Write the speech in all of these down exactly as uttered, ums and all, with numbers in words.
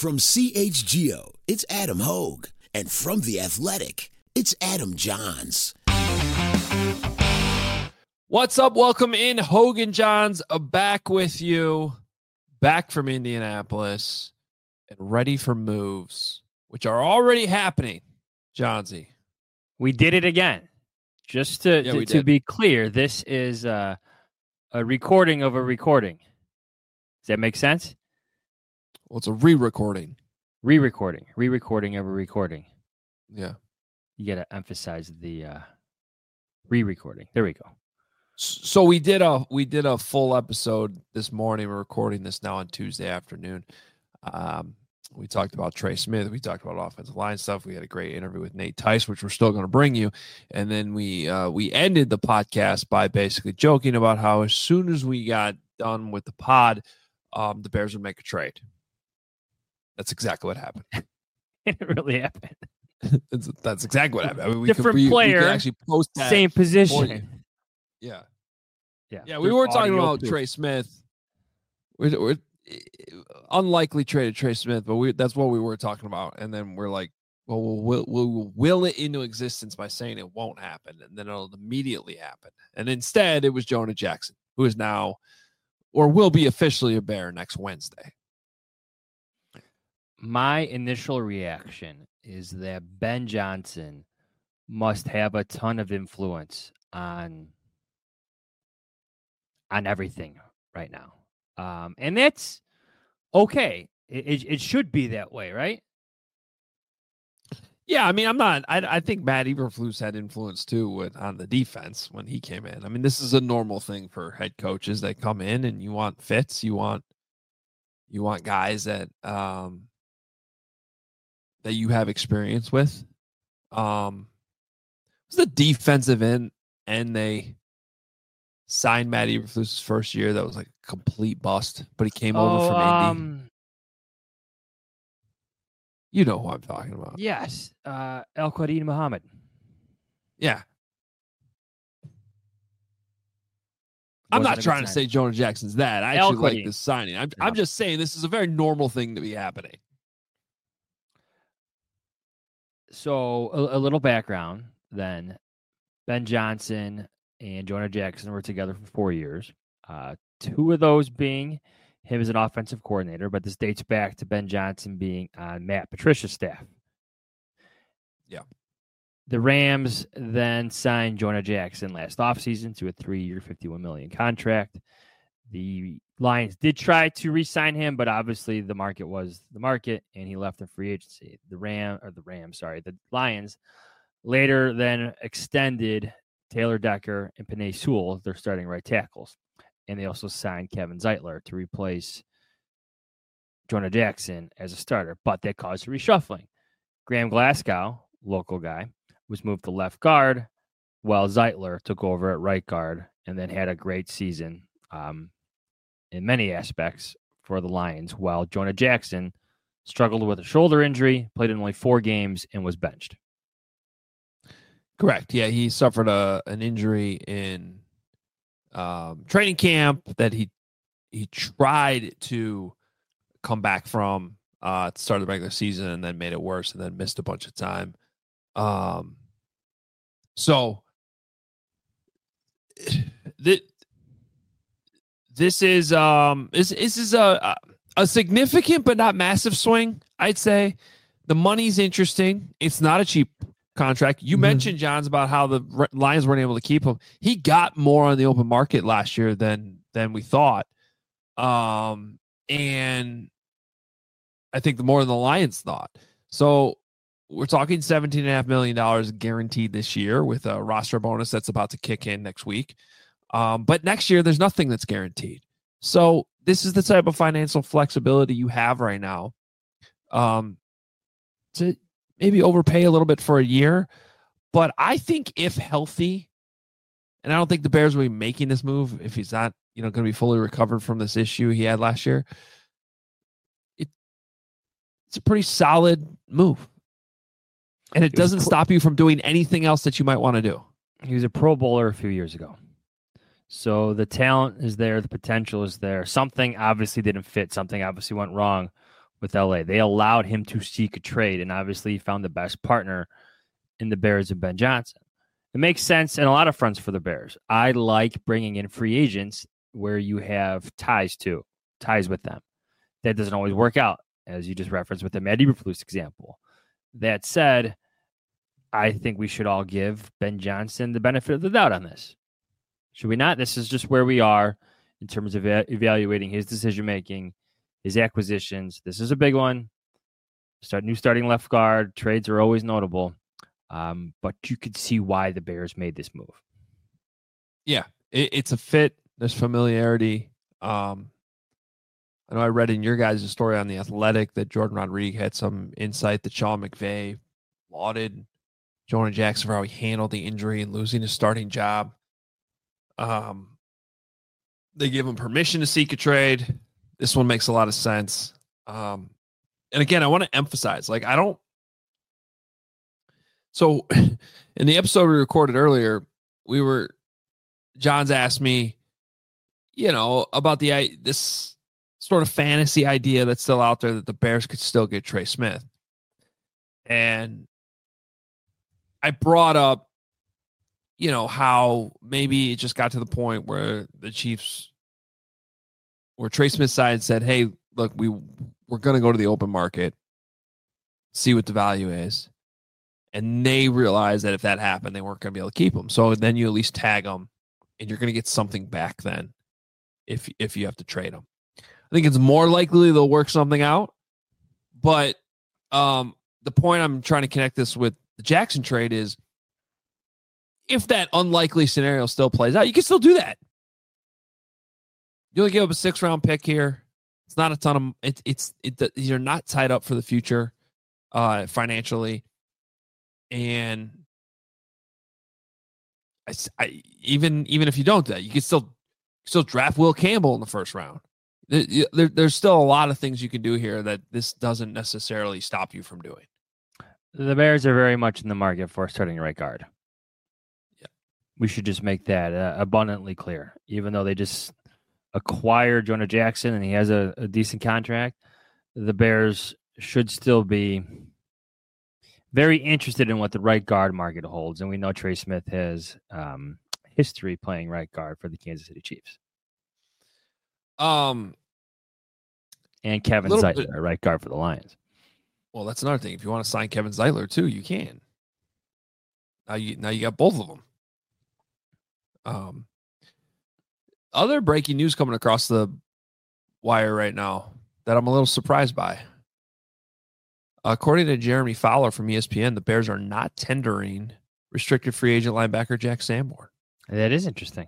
From C H G O, it's Adam Hogue. And from The Athletic, it's Adam Johns. What's up? Welcome in. Hogan Johns back with you, back from Indianapolis, and ready for moves, which are already happening. Johnsy. We did it again. Just to, yeah, to, to be clear, this is uh, a recording of a recording. Does that make sense? Well, it's a re-recording. Re-recording. Re-recording of a recording. Yeah. You got to emphasize the uh, re-recording. There we go. So we did a we did a full episode this morning. We're recording this now on Tuesday afternoon. Um, we talked about Trey Smith. We talked about offensive line stuff. We had a great interview with Nate Tice, which we're still going to bring you. And then we uh, we ended the podcast by basically joking about how as soon as we got done with the pod, um, the Bears would make a trade. That's exactly what happened. It really happened. that's, that's exactly what happened. I mean, we Different could, we, player, we could actually post that same position. Yeah. Yeah. Yeah, we were talking about proof. Trey Smith. We're, we're unlikely traded Trey Smith, but we that's what we were talking about. And then we're like, well, we'll, we'll, we'll will it into existence by saying it won't happen. And then it'll immediately happen. And instead, it was Jonah Jackson, who is now or will be officially a Bear next Wednesday. My initial reaction is that Ben Johnson must have a ton of influence on on everything right now. Um, and that's okay. It, it, it should be that way, right? Yeah, I mean, I'm not. I, I think Matt Eberflus had influence too with, on the defense when he came in. I mean, this is a normal thing for head coaches that come in, and you want fits. You want you want guys that um, that you have experience with. Um, it was the defensive end, and they signed Matt Eberflus' first year. That was like a complete bust, but he came oh, over from um, Indy. You know who I'm talking about. Yes. Uh, El-Quadin Muhammad. Yeah. I'm not trying to say Jonah Jackson's that. I actually like this signing. I'm, yeah. I'm just saying this is a very normal thing to be happening. So a, a little background then. Ben Johnson and Jonah Jackson were together for four years. Uh, two of those being him as an offensive coordinator, but this dates back to Ben Johnson being on Matt Patricia's staff. Yeah. The Rams then signed Jonah Jackson last offseason to a three-year, fifty-one million dollars contract. The Lions did try to re-sign him, but obviously the market was the market, and he left in free agency. The Ram or the Rams, sorry, the Lions later then extended Taylor Decker and Penei Sewell, their starting right tackles. And they also signed Kevin Zeitler to replace Jonah Jackson as a starter, but that caused a reshuffling. Graham Glasgow, local guy, was moved to left guard, while Zeitler took over at right guard and then had a great season um, in many aspects for the Lions, while Jonah Jackson struggled with a shoulder injury, played in only four games, and was benched. Correct. Yeah, he suffered a an injury in um, training camp that he he tried to come back from uh, at the start of the regular season and then made it worse and then missed a bunch of time. Um, so th- this is um this, this is a a significant but not massive swing, I'd say. The money's interesting. It's not a cheap contract. You mm-hmm. mentioned, Johns, about how the Lions weren't able to keep him. He got more on the open market last year than than we thought. Um, and I think the more than the Lions thought. So we're talking seventeen point five million dollars guaranteed this year with a roster bonus that's about to kick in next week. Um, but next year, there's nothing that's guaranteed. So this is the type of financial flexibility you have right now um, to maybe overpay a little bit for a year. But I think if healthy, and I don't think the Bears will be making this move if he's not, you know, going to be fully recovered from this issue he had last year. It, it's a pretty solid move. And it doesn't pro- stop you from doing anything else that you might want to do. He was a Pro Bowler a few years ago. So the talent is there. The potential is there. Something obviously didn't fit. Something obviously went wrong. with L A. They allowed him to seek a trade, and obviously he found the best partner in the Bears and Ben Johnson. It makes sense in a lot of fronts for the Bears. I like bringing in free agents where you have ties to, ties with them. That doesn't always work out, as you just referenced with the Matt Eberflus example. That said, I think we should all give Ben Johnson the benefit of the doubt on this. Should we not? This is just where we are in terms of evaluating his decision-making, his acquisitions. This is a big one. Start new starting left guard. Trades are always notable. Um, but you could see why the Bears made this move. Yeah, it, it's a fit. There's familiarity. Um, I know I read in your guys' story on The Athletic that Jordan Rodriguez had some insight that Sean McVay lauded Jonah Jackson for how he handled the injury and losing his starting job. Um, they give him permission to seek a trade. This one makes a lot of sense. Um, and again, I want to emphasize, like, I don't. So in the episode we recorded earlier, we were, John's asked me, you know, about the, this sort of fantasy idea that's still out there that the Bears could still get Trey Smith. And I brought up, you know, how maybe it just got to the point where the Chiefs, where Trey Smith's side said, hey, look, we, we're going to go to the open market, see what the value is. And they realized that if that happened, they weren't going to be able to keep him. So then you at least tag them, and you're going to get something back then if, if you have to trade them. I think it's more likely they'll work something out. But um, the point I'm trying to connect this with the Jackson trade is, if that unlikely scenario still plays out, you can still do that. You only give up a six round pick here. It's not a ton of it, it's it, you're not tied up for the future uh, financially, and I, I, even even if you don't do that, you can still still draft Will Campbell in the first round. There, there, there's still a lot of things you can do here that this doesn't necessarily stop you from doing. The Bears are very much in the market for starting a right guard. We should just make that uh, abundantly clear. Even though they just acquired Jonah Jackson and he has a, a decent contract, the Bears should still be very interested in what the right guard market holds. And we know Trey Smith has um, history playing right guard for the Kansas City Chiefs. Um, and Kevin Zeitler, bit, right guard for the Lions. Well, that's another thing. If you want to sign Kevin Zeitler too, you can. Now you now you got both of them. Um, other breaking news coming across the wire right now that I'm a little surprised by. According to Jeremy Fowler from E S P N, the Bears are not tendering restricted free agent linebacker Jack Sanborn. That is interesting.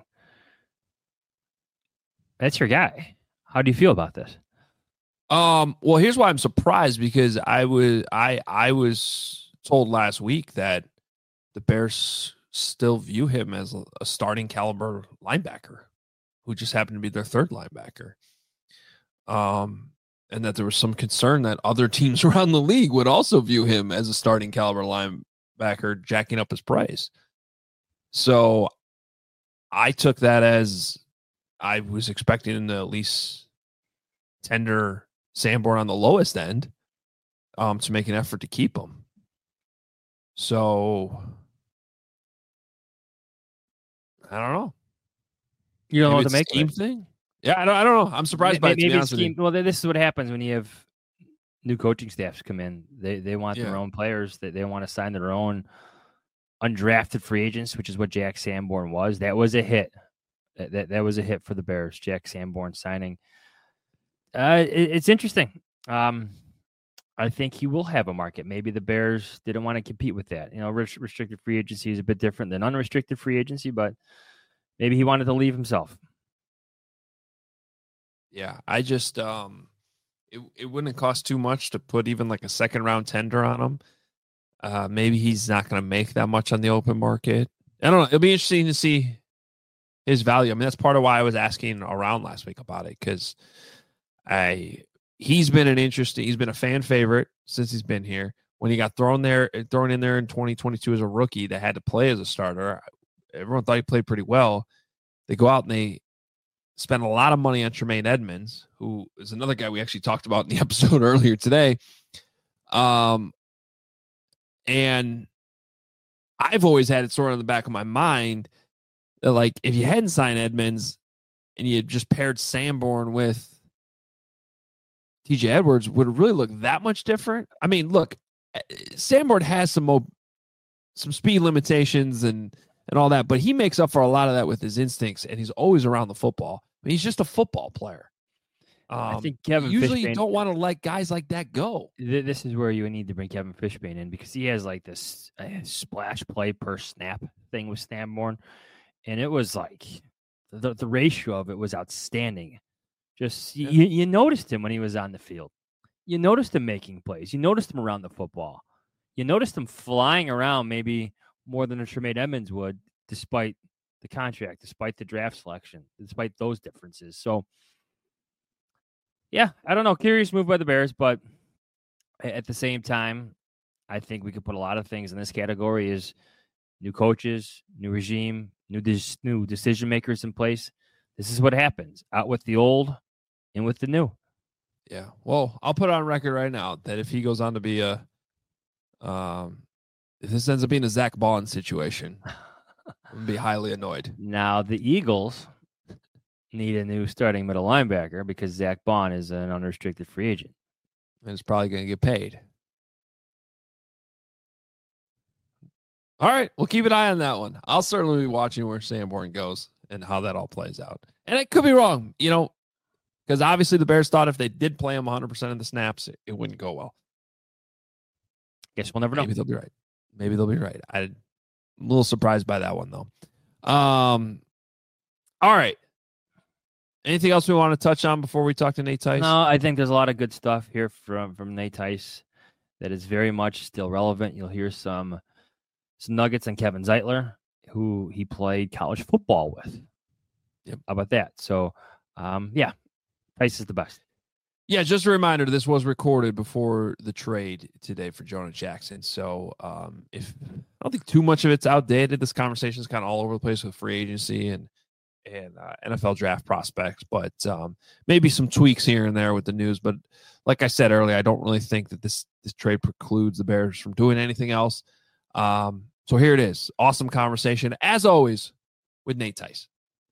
That's your guy. How do you feel about this? Um, well, here's why I'm surprised, because I was I I was told last week that the Bears still view him as a starting caliber linebacker who just happened to be their third linebacker. Um, and that there was some concern that other teams around the league would also view him as a starting caliber linebacker, jacking up his price. So I took that as I was expecting him to at least tender Sanborn on the lowest end um, to make an effort to keep him. So I don't know. You don't Maybe know what to make scheme thing. Yeah, I don't. I don't know. I'm surprised maybe, by it. To be honest scheme, with you. Well, this is what happens when you have new coaching staffs come in. They they want yeah. their own players. They they want to sign their own undrafted free agents, which is what Jack Sanborn was. That was a hit. That that, that was a hit for the Bears. Jack Sanborn signing. Uh, it, it's interesting. Um, I think he will have a market. Maybe the Bears didn't want to compete with that. You know, restricted free agency is a bit different than unrestricted free agency, but maybe he wanted to leave himself. Yeah, I just um, it it wouldn't cost too much to put even like a second round tender on him. Uh, maybe he's not going to make that much on the open market. I don't know. It'll be interesting to see his value. I mean, that's part of why I was asking around last week about it, because I he's been an interesting. He's been a fan favorite since he's been here. When he got thrown there, thrown in there in twenty twenty-two as a rookie that had to play as a starter, everyone thought he played pretty well. They go out and they spent a lot of money on Tremaine Edmonds, who is another guy we actually talked about in the episode earlier today. Um, and I've always had it sort of in the back of my mind that, like, if you hadn't signed Edmonds and you just paired Sanborn with T J Edwards, would it really look that much different? I mean, look, Sanborn has some mo- some speed limitations and and all that, but he makes up for a lot of that with his instincts, and he's always around the football. I mean, he's just a football player. Um, I think Kevin usually Fishbane, you don't want to let guys like that go. th- this is where you need to bring Kevin Fishbane in, because he has like this uh, splash play per snap thing with Sanborn, and it was like the, the ratio of it was outstanding. Just Yeah. you, you noticed him when he was on the field. You noticed him making plays. You noticed him around the football. You noticed him flying around maybe more than a Tremaine Edmonds would, despite the contract, despite the draft selection, despite those differences. So, yeah, I don't know. Curious move by the Bears, but at the same time, I think we could put a lot of things in this category: is new coaches, new regime, new de- new decision makers in place. This is what happens: out with the old, in with the new. Yeah. Well, I'll put on record right now that if he goes on to be a, um, if this ends up being a Zach Bond situation, I'm gonna be highly annoyed. Now the Eagles need a new starting middle linebacker because Zach Bond is an unrestricted free agent. And it's probably going to get paid. All right, we'll keep an eye on that one. I'll certainly be watching where Sanborn goes and how that all plays out. And I could be wrong, you know, because obviously the Bears thought if they did play him one hundred percent of the snaps, it, it wouldn't go well. Guess we'll never know. Maybe they'll be right. Maybe they'll be right. I'm a little surprised by that one, though. Um, all right. Anything else we want to touch on before we talk to Nate Tice? No, I think there's a lot of good stuff here from, from Nate Tice that is very much still relevant. You'll hear some, some nuggets on Kevin Zeitler, who he played college football with. Yep. How about that? So, um, yeah, Tice is the best. Yeah, just a reminder, this was recorded before the trade today for Jonah Jackson. So um, if I don't think too much of it's outdated, this conversation is kind of all over the place with free agency and and uh, N F L draft prospects, but um, maybe some tweaks here and there with the news. But like I said earlier, I don't really think that this this trade precludes the Bears from doing anything else. Um, so here it is. Awesome conversation, as always, with Nate Tice.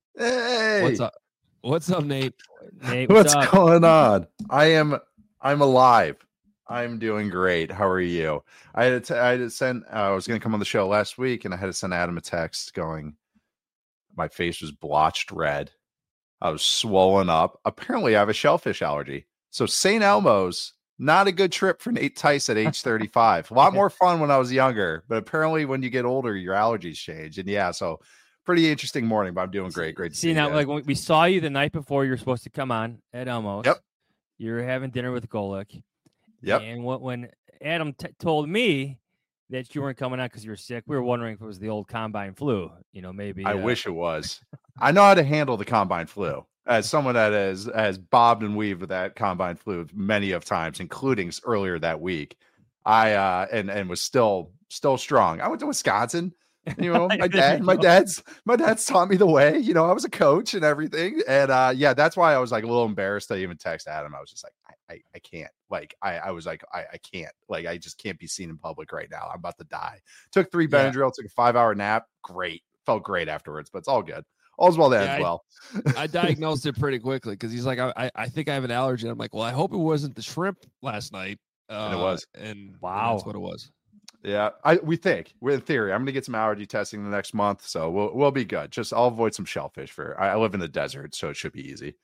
Hey, What's up? What's up, Nate? Nate, what's what's up? going on? I am I'm alive. I'm doing great. How are you? I had to, I had to send. Uh, I was going to come on the show last week, and I had to send Adam a text going, my face was blotched red. I was swollen up. Apparently, I have a shellfish allergy. So Saint Elmo's not a good trip for Nate Tice at age thirty-five. A lot more fun when I was younger, but apparently, when you get older, your allergies change. And yeah, so. Pretty interesting morning, but I'm doing great. Great to see, see now, you like when we saw you the night before you were supposed to come on at Elmo's. Yep. You were having dinner with Golick. Yep. And what, when Adam t- told me that you weren't coming on because you were sick, we were wondering if it was the old combine flu. You know, maybe. I uh, wish it was. I know how to handle the combine flu. As someone that has has bobbed and weaved with that combine flu many of times, including earlier that week, I uh and and was still still strong. I went to Wisconsin. You know, my dad, my dad's, my dad's taught me the way. You know, I was a coach and everything, and uh, yeah, that's why I was like a little embarrassed to even text Adam. I was just like, I, I, I can't. Like, I, I was like, I, I can't. Like, I just can't be seen in public right now. I'm about to die. Took three Benadryl, took a five hour nap. Great, felt great afterwards, but it's all good. All's well that Yeah, ends I- well. I diagnosed it pretty quickly because he's like, I, I I think I have an allergy. I'm like, well, I hope it wasn't the shrimp last night. Uh, And it was. And and Wow. that's what it was. Yeah, I we think we're in theory. I'm gonna get some allergy testing the next month, so we'll we'll be good. Just I'll avoid some shellfish for. I, I live in the desert, so it should be easy.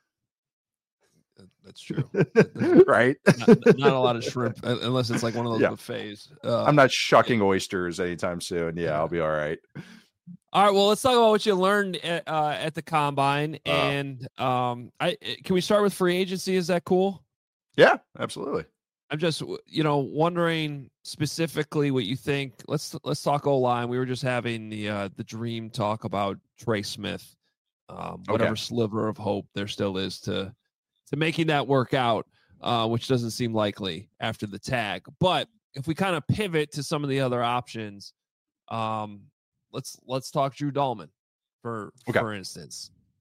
That- That's true. Right? not, not a lot of shrimp uh, unless it's like one of those Yeah. buffets. Uh, I'm not shucking oysters anytime soon. Yeah, I'll be all right. All right. Well, let's talk about what you learned at, uh, at the combine, Uh. and um, I can we start with free agency? Is that cool? Yeah, absolutely. I'm just, you know, wondering specifically what you think. Let's let's talk O line. We were just having the uh, the dream talk about Trey Smith, um, whatever Okay. sliver of hope there still is to to making that work out, uh, which doesn't seem likely after the tag. But if we kind of pivot to some of the other options, um, let's let's talk Drew Dahlman for Okay. for instance.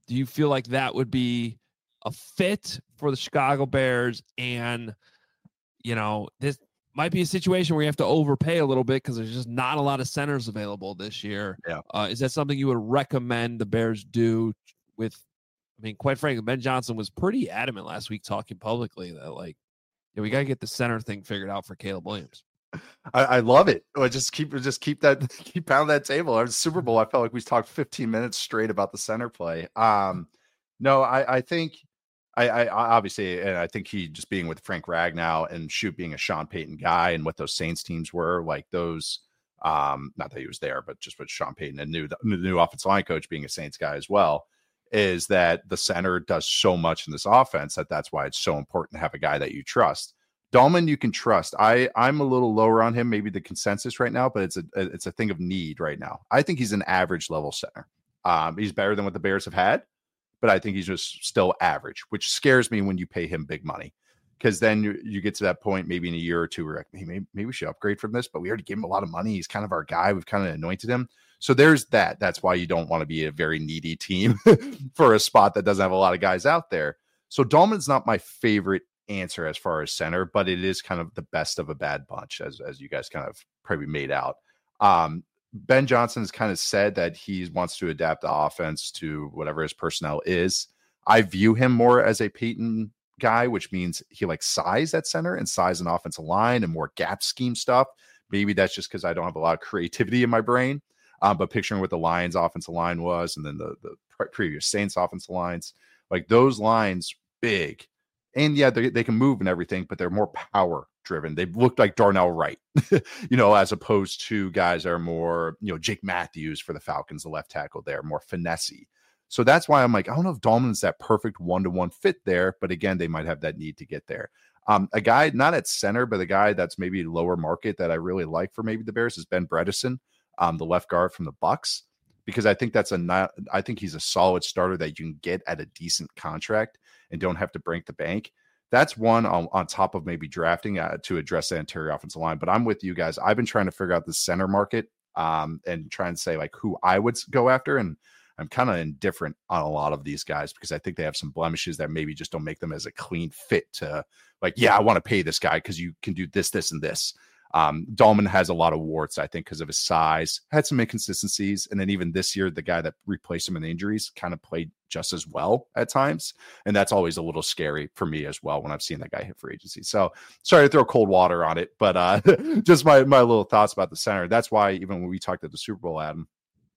do you feel like that would be a fit for the Chicago Bears? And, you know, this might be a situation where you have to overpay a little bit because there's just not a lot of centers available this year. Yeah. Uh, is that something you would recommend the Bears do with, I mean, quite frankly, Ben Johnson was pretty adamant last week talking publicly that, like, yeah, we got to get the center thing figured out for Caleb Williams. I, I love it. I just keep just keep that keep pounding that table. Our Super Bowl, I felt like we talked fifteen minutes straight about the center play. Um, no, I, I think I, I obviously, and I think he just being with Frank Ragnow and shoot being a Sean Payton guy and what those Saints teams were like those. Um, not that he was there, but just with Sean Payton and new the new offensive line coach being a Saints guy as well, is that the center does so much in this offense that that's why it's so important to have a guy that you trust. Dahlman, you can trust. I, I'm a little lower on him, maybe the consensus right now, but it's a it's a thing of need right now. I think he's an average level center. Um, he's better than what the Bears have had, but I think he's just still average, which scares me when you pay him big money. Because then you, you get to that point, maybe in a year or two, where like, hey, maybe, maybe we should upgrade from this, but we already gave him a lot of money. He's kind of our guy. We've kind of anointed him. So there's that. That's why you don't want to be a very needy team for a spot that doesn't have a lot of guys out there. So Dahlman's not my favorite answer as far as center, but it is kind of the best of a bad bunch, as as you guys kind of probably made out. Um, Ben Johnson has kind of said that he wants to adapt the offense to whatever his personnel is. I view him more as a Peyton guy, which means he likes size at center and size and offensive line and more gap scheme stuff. Maybe that's just because I don't have a lot of creativity in my brain. Um, but picturing what the Lions offensive line was, and then the, the pre- previous Saints offensive lines, like those lines, big. And yeah, they, they can move and everything, but they're more power driven. They look like Darnell Wright, you know, as opposed to guys that are more, you know, Jake Matthews for the Falcons, the left tackle there, more finessey. So that's why I'm like, I don't know if Dahlman's that perfect one-to-one fit there, but again, they might have that need to get there. Um, a guy not at center, but a guy that's maybe lower market that I really like for maybe the Bears is Ben Bredeson, um, the left guard from the Bucks, because I think that's a not, I think he's a solid starter that you can get at a decent contract and don't have to break the bank. That's one on, on top of maybe drafting uh, to address the interior offensive line. But I'm with you guys. I've been trying to figure out the center market um, and trying to say like who I would go after. And I'm kind of indifferent on a lot of these guys because I think they have some blemishes that maybe just don't make them as a clean fit to like, yeah, I want to pay this guy because you can do this, this, and this. Um, Dahlman has a lot of warts, I think, because of his size, had some inconsistencies. And then even this year, the guy that replaced him in injuries kind of played just as well at times. And that's always a little scary for me as well when I've seen that guy hit free agency. So sorry to throw cold water on it, but uh, just my, my little thoughts about the center. That's why even when we talked at the Super Bowl, Adam,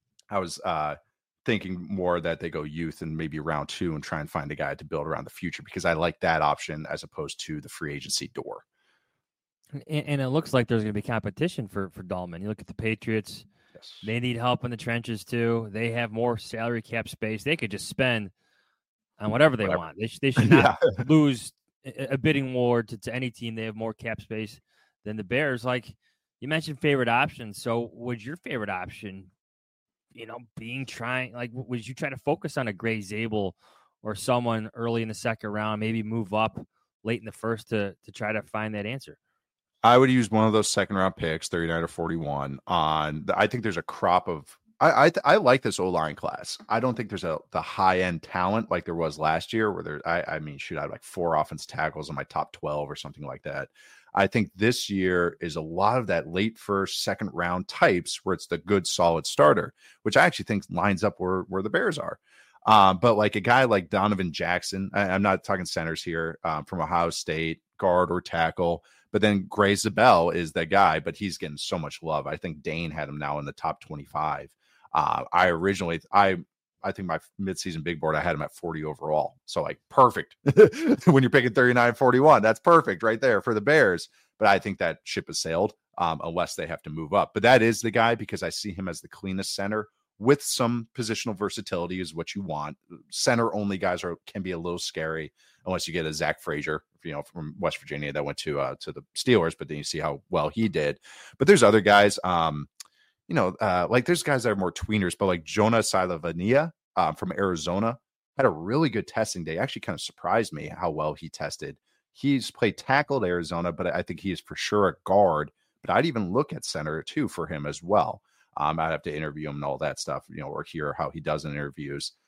I was uh, thinking more that they go youth and maybe round two and try and find a guy to build around the future, because I like that option as opposed to the free agency door. And, and it looks like there's going to be competition for, for Dahlman. You look at the Patriots. Yes. They need help in the trenches too. They have more salary cap space. They could just spend on whatever they Whatever. want. They, sh- they should not Yeah. lose a, a bidding war to, to any team. They have more cap space than the Bears. Like you mentioned favorite options. So would your favorite option, you know, being trying, like, would you try to focus on a Gray Zabel or someone early in the second round, maybe move up late in the first to to try to find that answer? I would use one of those second round picks, thirty-nine or forty-one. On the, I think there's a crop of. I I, I like this O-line class. I don't think there's a the high end talent like there was last year, where there. I, I mean, shoot, I had like four offense tackles in my top twelve or something like that. I think this year is a lot of that late first, second round types where it's the good, solid starter, which I actually think lines up where where the Bears are. Um, but like a guy like Donovan Jackson, I, I'm not talking centers here, um, from Ohio State, guard or tackle. But then Gray Zabel is the guy, but he's getting so much love. I think Dane had him now in the top twenty-five. Uh, I originally, I I think my midseason big board, I had him at forty overall. So like perfect. When you're picking thirty-nine, forty-one, that's perfect right there for the Bears. But I think that ship has sailed um, unless they have to move up. But that is the guy because I see him as the cleanest center with some positional versatility is what you want. Center only guys are can be a little scary unless you get a Zach Frazier, you know, from West Virginia that went to uh, to the Steelers, but then you see how well he did. But there's other guys, um, you know, uh, like there's guys that are more tweeners, but like Jonah Silavania uh, from Arizona had a really good testing day. Actually kind of surprised me how well he tested. He's played tackle at Arizona, but I think he is for sure a guard. But I'd even look at center too for him as well. Um, I'd have to interview him and all that stuff, you know, or hear how he does in interviews.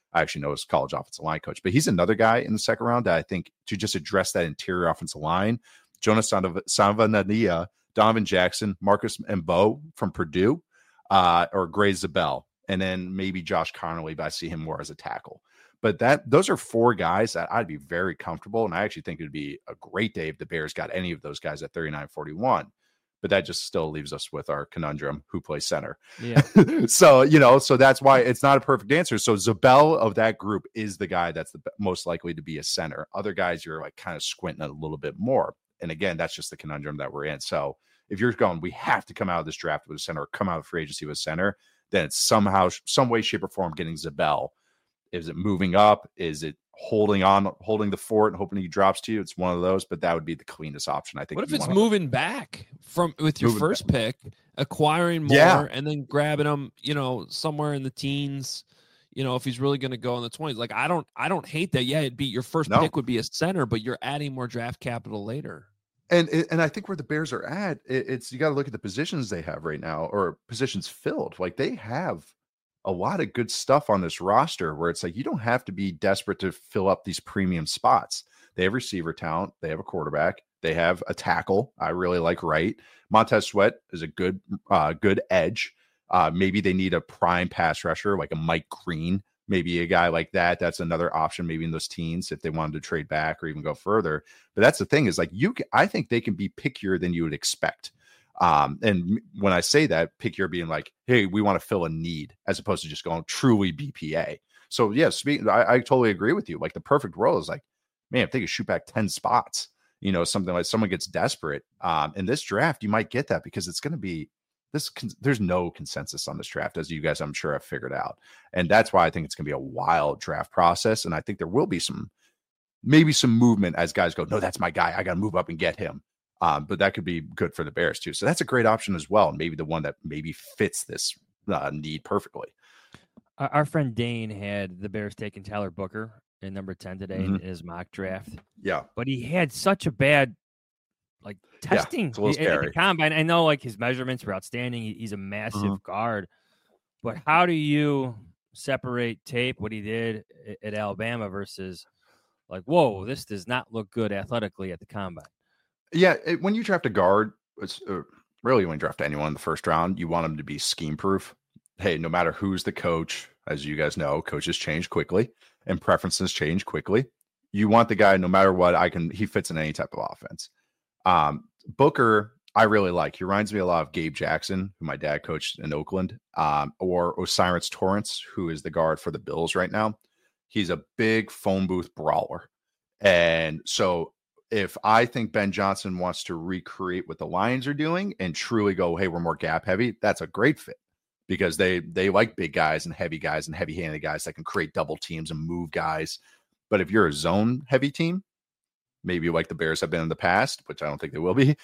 I actually know his college offensive line coach, but he's another guy in the second round that I think to just address that interior offensive line, Jonas Savanadia, Donovan Jackson, Marcus Mbo from Purdue, uh, or Gray Zabel, and then maybe Josh Connolly, but I see him more as a tackle. But that those are four guys that I'd be very comfortable, and I actually think it would be a great day if the Bears got any of those guys at thirty-nine forty-one. But that just still leaves us with our conundrum, who plays center. Yeah. So, you know, so that's why it's not a perfect answer. So Zabel of that group is the guy that's the most likely to be a center. Other guys, you're like kind of squinting a little bit more. And again, that's just the conundrum that we're in. So if you're going, we have to come out of this draft with a center or come out of free agency with a center, then it's somehow, some way, shape, or form getting Zabel. Is it moving up? Is it holding on, holding the fort and hoping he drops to you? It's one of those, but that would be the cleanest option, I think. What if you it's wanna- moving back from with your Moving first back. pick, acquiring more, Yeah. and then grabbing them, you know, somewhere in the teens? You know, if he's really going to go in the twenties, like I don't, I don't hate that. Yeah, it'd be your first No. pick would be a center, but you're adding more draft capital later. And and I think where the Bears are at, it, it's you got to look at the positions they have right now, or positions filled. Like they have a lot of good stuff on this roster where it's like you don't have to be desperate to fill up these premium spots. They have receiver talent, they have a quarterback, they have a tackle. I really like Wright. Montez Sweat is a good uh, good edge. Uh, maybe they need a prime pass rusher like a Mike Green. Maybe a guy like that. That's another option, maybe in those teens if they wanted to trade back or even go further. But that's the thing is like you. Can, I think they can be pickier than you would expect. Um, and when I say that, pickier being like, hey, we want to fill a need as opposed to just going truly B P A. So yeah, speaking, I, I totally agree with you. Like the perfect role is like, man, if they could shoot back ten spots, you know, something like someone gets desperate. Um, in this draft, you might get that because it's going to be. This there's no consensus on this draft, as you guys, I'm sure, have figured out. And that's why I think it's going to be a wild draft process. And I think there will be some, maybe some movement as guys go, no, that's my guy. I got to move up and get him. Um, but that could be good for the Bears too. So that's a great option as well. And maybe the one that maybe fits this uh, need perfectly. Our, our friend Dane had the Bears taking Tyler Booker in number ten today Mhm. in his mock draft. Yeah. But he had such a bad like testing it's a little at- at the scary. combine. I know like his measurements were outstanding. He, he's a massive Mhm. guard. But how do you separate tape what he did at, at Alabama versus like, whoa, this does not look good athletically at the combine? Yeah. It, when you draft a guard, it's uh, really when you draft anyone in the first round, you want them to be scheme proof. Hey, no matter who's the coach, as you guys know, coaches change quickly and preferences change quickly. You want the guy, no matter what, I can, he fits in any type of offense. Um, Booker, I really like. He reminds me a lot of Gabe Jackson, who my dad coached in Oakland, um, or Osiris Torrance, who is the guard for the Bills right now. He's a big phone booth brawler. And so if I think Ben Johnson wants to recreate what the Lions are doing and truly go, hey, we're more gap heavy, that's a great fit because they they like big guys and heavy guys and heavy-handed guys that can create double teams and move guys. But if you're a zone heavy team, maybe like the Bears have been in the past, which I don't think they will be,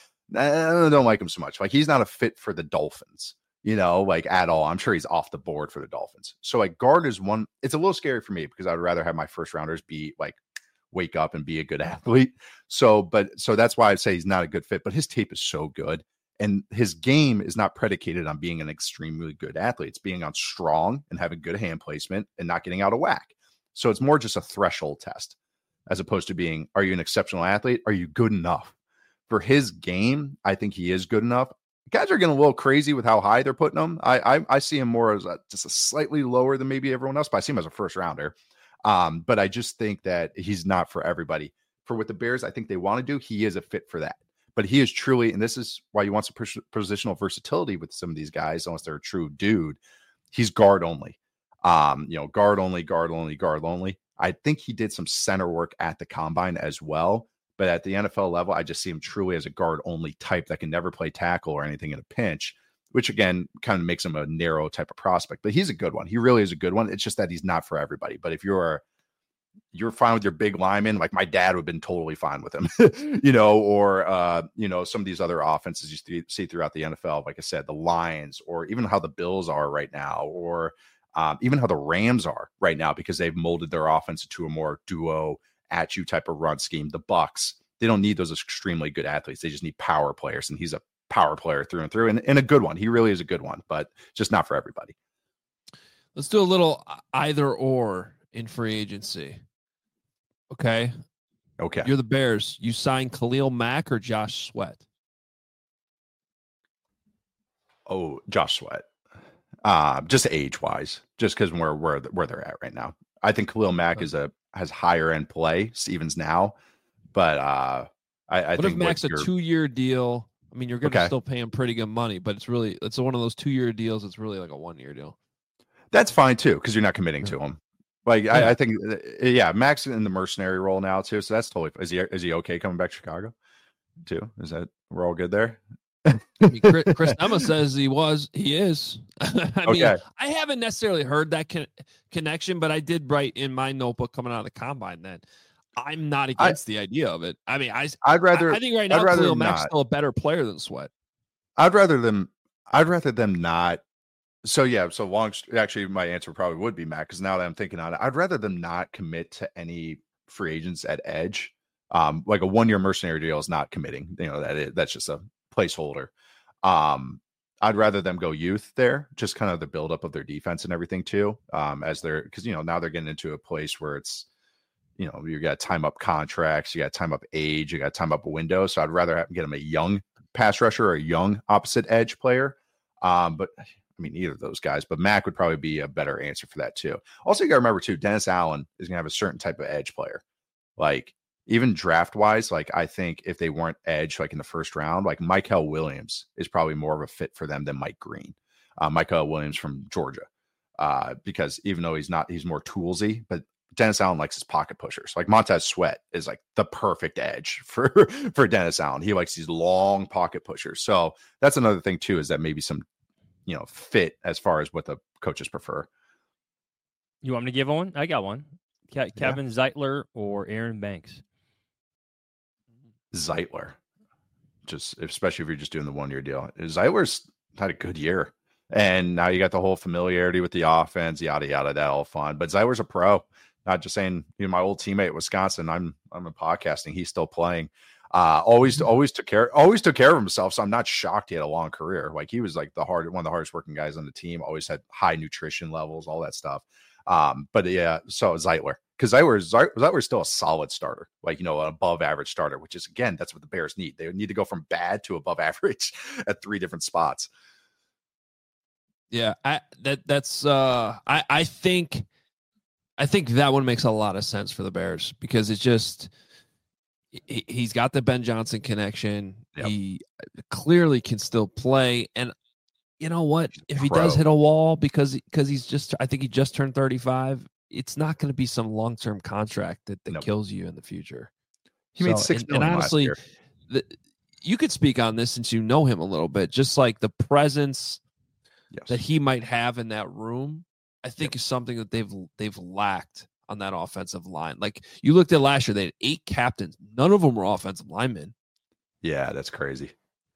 I don't like him so much. Like he's not a fit for the Dolphins, you know, like at all. I'm sure he's off the board for the Dolphins. So like guard is one, it's a little scary for me because I'd rather have my first rounders be like, wake up and be a good athlete. So, but so that's why I'd say he's not a good fit, but his tape is so good. And his game is not predicated on being an extremely good athlete. It's being on strong and having good hand placement and not getting out of whack. So it's more just a threshold test as opposed to being, are you an exceptional athlete? Are you good enough? For his game, I think he is good enough. Guys are getting a little crazy with how high they're putting him. I I, I see him more as a, just a slightly lower than maybe everyone else, but I see him as a first rounder. Um, but I just think that he's not for everybody. For what the Bears, I think they want to do, he is a fit for that. But he is truly, and this is why you want some pos- positional versatility with some of these guys, unless they're a true dude. He's guard only. Um, you know, guard only, guard only, guard only. I think he did some center work at the combine as well. But at the N F L level, I just see him truly as a guard only type that can never play tackle or anything in a pinch, which again kind of makes him a narrow type of prospect. But he's a good one. He really is a good one. It's just that he's not for everybody. But if you're you're fine with your big lineman, like my dad would have been totally fine with him, you know, or, uh, you know, some of these other offenses you th- see throughout the N F L, like I said, the Lions, or even how the Bills are right now, or um, even how the Rams are right now, because they've molded their offense into a more duo at you type of run scheme. The Bucks, they don't need those extremely good athletes. They just need power players. And he's a power player through and through, and, and a good one. He really is a good one, but just not for everybody. Let's do a little either or in free agency. Okay. Okay. You're the Bears. You sign Khalil Mack or Josh Sweat? Oh, Josh Sweat. Uh, just age wise, just because we're where where they're at right now. I think Khalil Mack is a has higher end play, Stevens now, but uh, I, I what think if Mack's a two year deal? I mean, you're going to okay. still pay him pretty good money, but it's really it's one of those two year deals. It's really like a one year deal. That's fine too, because you're not committing yeah. to him. Like yeah. I, I think, yeah, Mack's in the mercenary role now too, so that's totally. Is he is he okay coming back to Chicago too? Is that we're all good there? I mean, Chris, Chris Emma says he was. He is. I mean, okay. I haven't necessarily heard that con- connection, but I did write in my notebook coming out of the combine that I'm not against I, the idea of it. I mean, I, I'd rather. I, I think right now Khalil Mack's still a better player than Sweat. I'd rather them. I'd rather them not. So yeah. So long. Actually, my answer probably would be Mack, because now that I'm thinking on it, I'd rather them not commit to any free agents at edge. Um, like a one year mercenary deal is not committing. You know that is, that's just a placeholder. Um, I'd rather them go youth there, just kind of the buildup of their defense and everything too. Um, as they're because you know now they're getting into a place where it's you know you got time up contracts, you got time up age, you got time up a window. So I'd rather have, get them a young pass rusher or a young opposite edge player. Um, but I mean either of those guys, but Mack would probably be a better answer for that too. Also, you got to remember too, Dennis Allen is gonna have a certain type of edge player, like. Even draft wise, like I think if they weren't edge, like in the first round, like Michael Williams is probably more of a fit for them than Mike Green. Uh, Michael Williams from Georgia, uh, because even though he's not, he's more toolsy, but Dennis Allen likes his pocket pushers. Like Montez Sweat is like the perfect edge for, for Dennis Allen. He likes these long pocket pushers. So that's another thing too, is that maybe some, you know, fit as far as what the coaches prefer. You want me to give one? I got one. Ke- Kevin yeah. Zeitler or Aaron Banks? Zeitler, just especially if you're just doing the one year deal. Zeitler's had a good year, and now you got the whole familiarity with the offense, yada yada, that all fun. But Zeitler's a pro. Not just saying, you know, my old teammate at Wisconsin. I'm I'm in podcasting. He's still playing. Uh, always always took care always took care of himself. So I'm not shocked he had a long career. Like he was like the hard one of the hardest working guys on the team. Always had high nutrition levels, all that stuff. Um, but yeah, so Zeitler. Because Zeitler, Zeitler is still a solid starter, like, you know, an above average starter, which is, again, that's what the Bears need. They need to go from bad to above average at three different spots. Yeah, I that that's uh I, I think I think that one makes a lot of sense for the Bears because it's just he, he's got the Ben Johnson connection. Yep. He clearly can still play. And you know what? If he does hit a wall because because he's just I think he just turned thirty-five. It's not going to be some long-term contract that, that nope. kills you in the future. He so, made six and, million and honestly, last year. The, you could speak on this since you know him a little bit, just like the presence yes. that he might have in that room, I think yep. is something that they've they've lacked on that offensive line. Like you looked at last year, they had eight captains. None of them were offensive linemen. Yeah, that's crazy.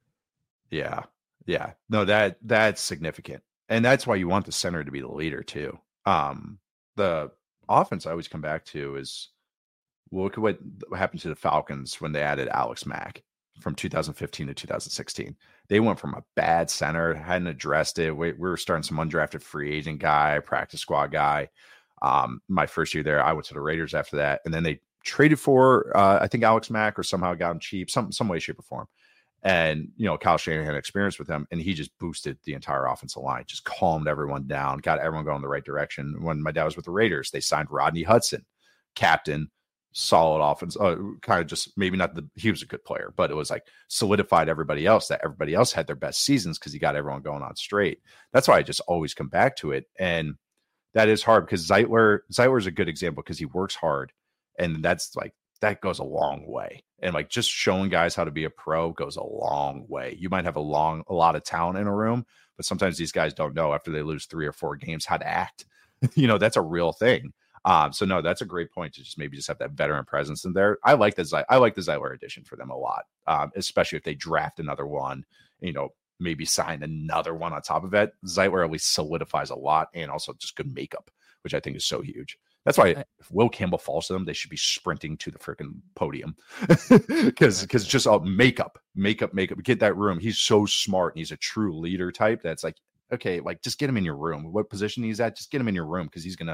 Yeah. Yeah. No, that that's significant. And that's why you want the center to be the leader too. Um, the offense I always come back to is look at what happened to the Falcons when they added Alex Mack from two thousand fifteen to two thousand sixteen. They went from a bad center, hadn't addressed it. We, we were starting some undrafted free agent guy, practice squad guy. Um, my first year there, I went to the Raiders after that. And then they traded for, uh, I think, Alex Mack or somehow got him cheap, some, some way, shape, or form. And, you know, Kyle Shanahan had experience with him, and he just boosted the entire offensive line, just calmed everyone down, got everyone going the right direction. When my dad was with the Raiders, they signed Rodney Hudson, captain, solid offense, uh, kind of just maybe not the, he was a good player, but it was like solidified everybody else that everybody else had their best seasons because he got everyone going on straight. That's why I just always come back to it. And that is hard because Zeitler, Zeitler is a good example because he works hard. And that's like, that goes a long way. And like just showing guys how to be a pro goes a long way. You might have a long, a lot of talent in a room, but sometimes these guys don't know after they lose three or four games how to act. You know, that's a real thing. Um, so no, that's a great point to just maybe just have that veteran presence in there. I like the I like the Zeitler addition for them a lot, um, especially if they draft another one. You know, maybe sign another one on top of it. Zeitler at least solidifies a lot, and also just good makeup, which I think is so huge. That's why if Will Campbell falls to them, they should be sprinting to the freaking podium because because just all makeup, makeup, makeup. Get that room. He's so smart. And he's a true leader type. That's like, okay, like just get him in your room. What position he's at, just get him in your room because he's gonna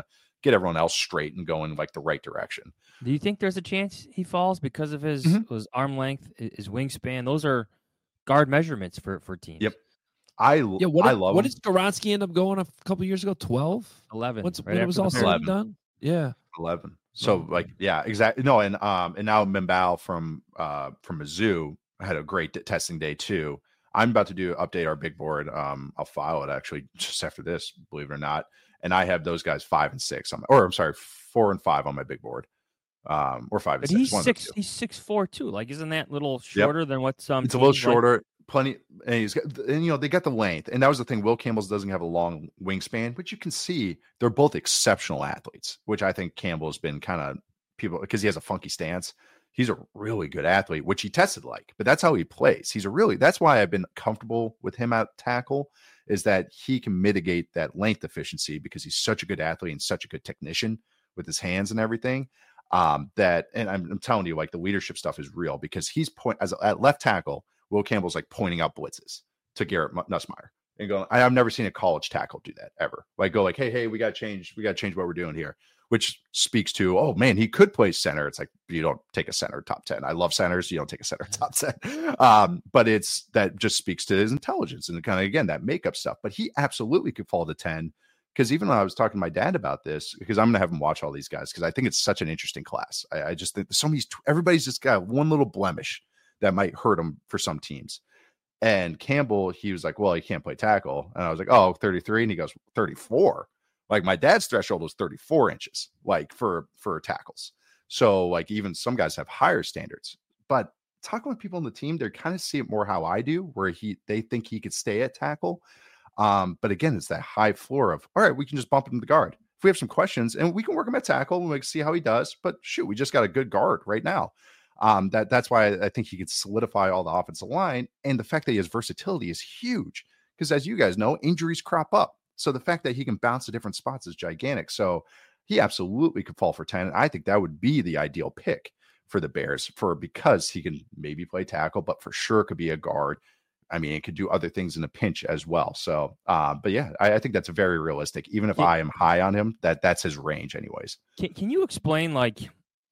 get everyone else straight and going like the right direction. Do you think there's a chance he falls because of his, mm-hmm. his arm length, his wingspan? Those are guard measurements for, for teams. Yep. I, yeah, what I did, love What him. did Skoronski end up going a couple years ago? twelve? eleven. What's, right when it was all said and done? Yeah. eleven. So like, yeah, exactly. No. And, um, and now Mbao from, uh, from Mizzou had a great t- testing day too. I'm about to do update our big board. Um, I'll file it actually just after this, believe it or not. And I have those guys five and six on my, or I'm sorry, four and five on my big board. Um, or five but and he's six. six. He's six four too. Like, isn't that a little shorter yep. than what some? It's a little shorter. Like? Plenty, and he's got, and you know, they got the length, and that was the thing. Will Campbell's doesn't have a long wingspan, but you can see they're both exceptional athletes, which I think Campbell has been kind of people because he has a funky stance. He's a really good athlete, which he tested like, but that's how he plays. He's a really, that's why I've been comfortable with him at tackle, is that he can mitigate that length efficiency because he's such a good athlete and such a good technician with his hands and everything. Um, that, and I'm, I'm telling you, like the leadership stuff is real because he's point as at left tackle. Will Campbell's like pointing out blitzes to Garrett Nussmeier and going, I've never seen a college tackle do that ever. Like go like, hey, hey, we got to change, we got to change what we're doing here, which speaks to, oh man, he could play center. It's like, you don't take a center top ten. I love centers. You don't take a center top ten. Um, but it's, that just speaks to his intelligence and kind of, again, that makeup stuff, but he absolutely could fall to ten. Because even when I was talking to my dad about this, because I'm going to have him watch all these guys, because I think it's such an interesting class. I, I just think some of these, everybody's just got one little blemish that might hurt him for some teams. And Campbell, he was like, well, he can't play tackle. And I was like, oh, thirty-three. And he goes, thirty-four. Like my dad's threshold was thirty-four inches, like for, for tackles. So like even some guys have higher standards. But talking with people on the team, they kind of see it more how I do, where he they think he could stay at tackle. Um, but again, it's that high floor of, all right, we can just bump him to guard. If we have some questions and we can work him at tackle and we can see how he does, but shoot, we just got a good guard right now. Um, that that's why I think he could solidify all the offensive line. And the fact that he has versatility is huge because as you guys know, injuries crop up. So the fact that he can bounce to different spots is gigantic. So he absolutely could fall for ten. And I think that would be the ideal pick for the Bears for, because he can maybe play tackle, but for sure could be a guard. I mean, it could do other things in a pinch as well. So, uh, but yeah, I, I think that's very realistic. Even if can, I am high on him, that that's his range anyways. Can, can you explain, like,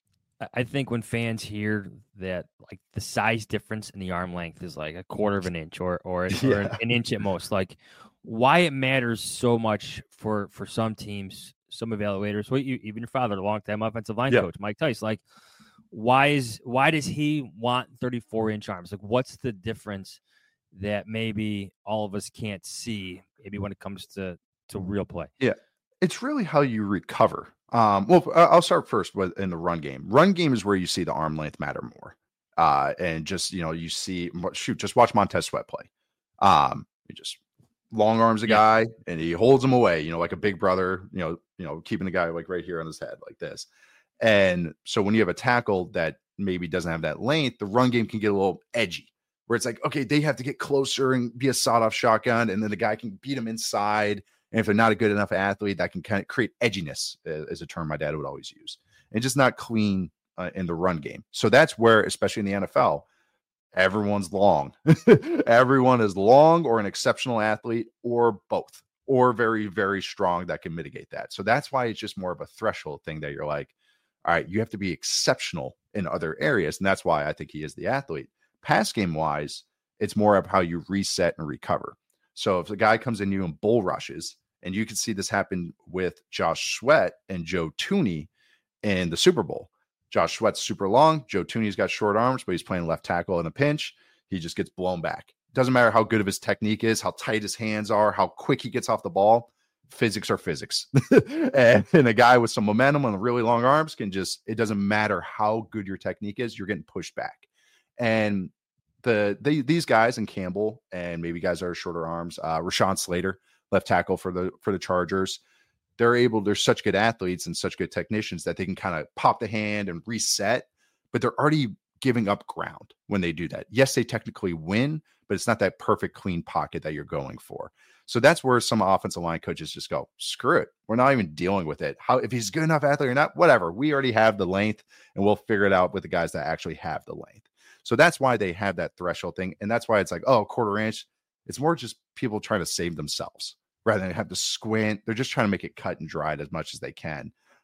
I think when fans hear that, like, the size difference in the arm length is like a quarter of an inch or, or, yeah. or an, an inch at most, like why it matters so much for, for some teams, some evaluators, well, you, even your father, a longtime offensive line yeah. coach, Mike Tice, like, why is, why does he want thirty-four inch arms? Like, what's the difference that maybe all of us can't see, maybe when it comes to, to real play? Yeah, it's really how you recover. Um, well, I'll start first with in the run game. Run game is where you see the arm length matter more. Uh, and just, you know, you see, shoot, just watch Montez Sweat play. Um, he just long arms a guy yeah. and he holds him away, you know, like a big brother, you know, you know, keeping the guy like right here on his head like this. And so when you have a tackle that maybe doesn't have that length, the run game can get a little edgy. Where it's like, okay, they have to get closer and be a sawed-off shotgun, and then the guy can beat them inside. And if they're not a good enough athlete, that can kind of create edginess, uh, is a term my dad would always use, and just not clean uh, in the run game. So that's where, especially in the N F L, everyone's long. Everyone is long or an exceptional athlete or both, or very, very strong that can mitigate that. So that's why it's just more of a threshold thing that you're like, all right, you have to be exceptional in other areas. And that's why I think he is the athlete. Pass game wise, it's more of how you reset and recover. So if the guy comes in you and bull rushes, and you can see this happen with Josh Sweat and Joe Thuney in the Super Bowl. Josh Sweat's super long. Joe Thuney's got short arms, but he's playing left tackle in a pinch. He just gets blown back. Doesn't matter how good of his technique is, how tight his hands are, how quick he gets off the ball. Physics are physics. and, and a guy with some momentum and really long arms can just, it doesn't matter how good your technique is, you're getting pushed back. And the they, these guys and Campbell and maybe guys that are shorter arms, uh, Rashawn Slater, left tackle for the for the Chargers, they're able, they're such good athletes and such good technicians that they can kind of pop the hand and reset, but they're already giving up ground when they do that. Yes, they technically win, but it's not that perfect clean pocket that you're going for. So that's where some offensive line coaches just go, screw it. We're not even dealing with it. How if he's good enough athlete or not, whatever. We already have the length and we'll figure it out with the guys that actually have the length. So that's why they have that threshold thing. And that's why it's like, oh, quarter inch. It's more just people trying to save themselves rather than have to squint. They're just trying to make it cut and dried as much as they can.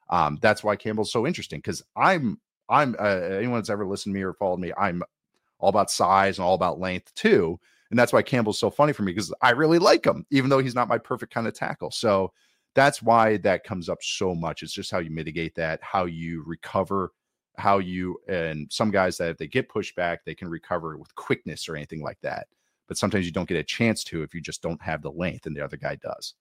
Um, that's why Campbell's so interesting because I'm I'm uh, anyone that's ever listened to me or followed me, I'm all about size and all about length too. And that's why Campbell's so funny for me because I really like him, even though he's not my perfect kind of tackle. So that's why that comes up so much. It's just how you mitigate that, how you recover, how you, and some guys that if they get pushed back, they can recover with quickness or anything like that. But sometimes you don't get a chance to if you just don't have the length and the other guy does.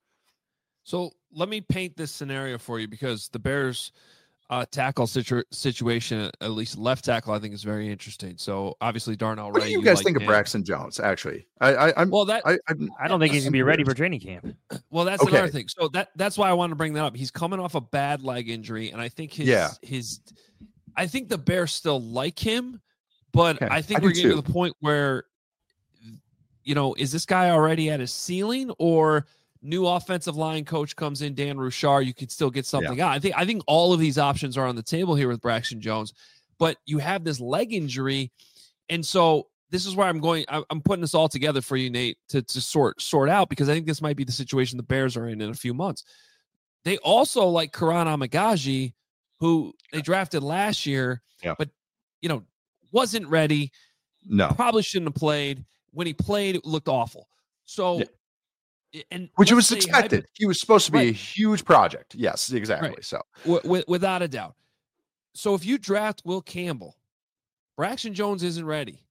So let me paint this scenario for you because the Bears uh, tackle situ- situation, at least left tackle, I think is very interesting. So obviously Darnell What Wright. do you guys like think him. of Braxton Jones? Actually, I, I, I'm well that I, I'm, I don't think he's gonna be ready for training camp. Well, that's Okay. another thing. So that that's why I wanted to bring that up. He's coming off a bad leg injury, and I think his Yeah. his I think the Bears still like him, but Okay. I think I we're do getting too. to the point where, you know, is this guy already at his ceiling, or new offensive line coach comes in, Dan Rouchard, you could still get something out. I think I think all of these options are on the table here with Braxton Jones, but you have this leg injury, and so this is where I'm going. I'm putting this all together for you, Nate, to to sort sort out because I think this might be the situation the Bears are in in a few months. They also like Karan Amagaji, who they drafted last year, Yeah. but you know wasn't ready. No, Probably shouldn't have played. When he played, it looked awful. So. Yeah. And which let's was say expected. hypo- He was supposed to be Right. a huge project. Yes, exactly. Right. So w- w- without a doubt. So if you draft Will Campbell, Braxton Jones isn't ready.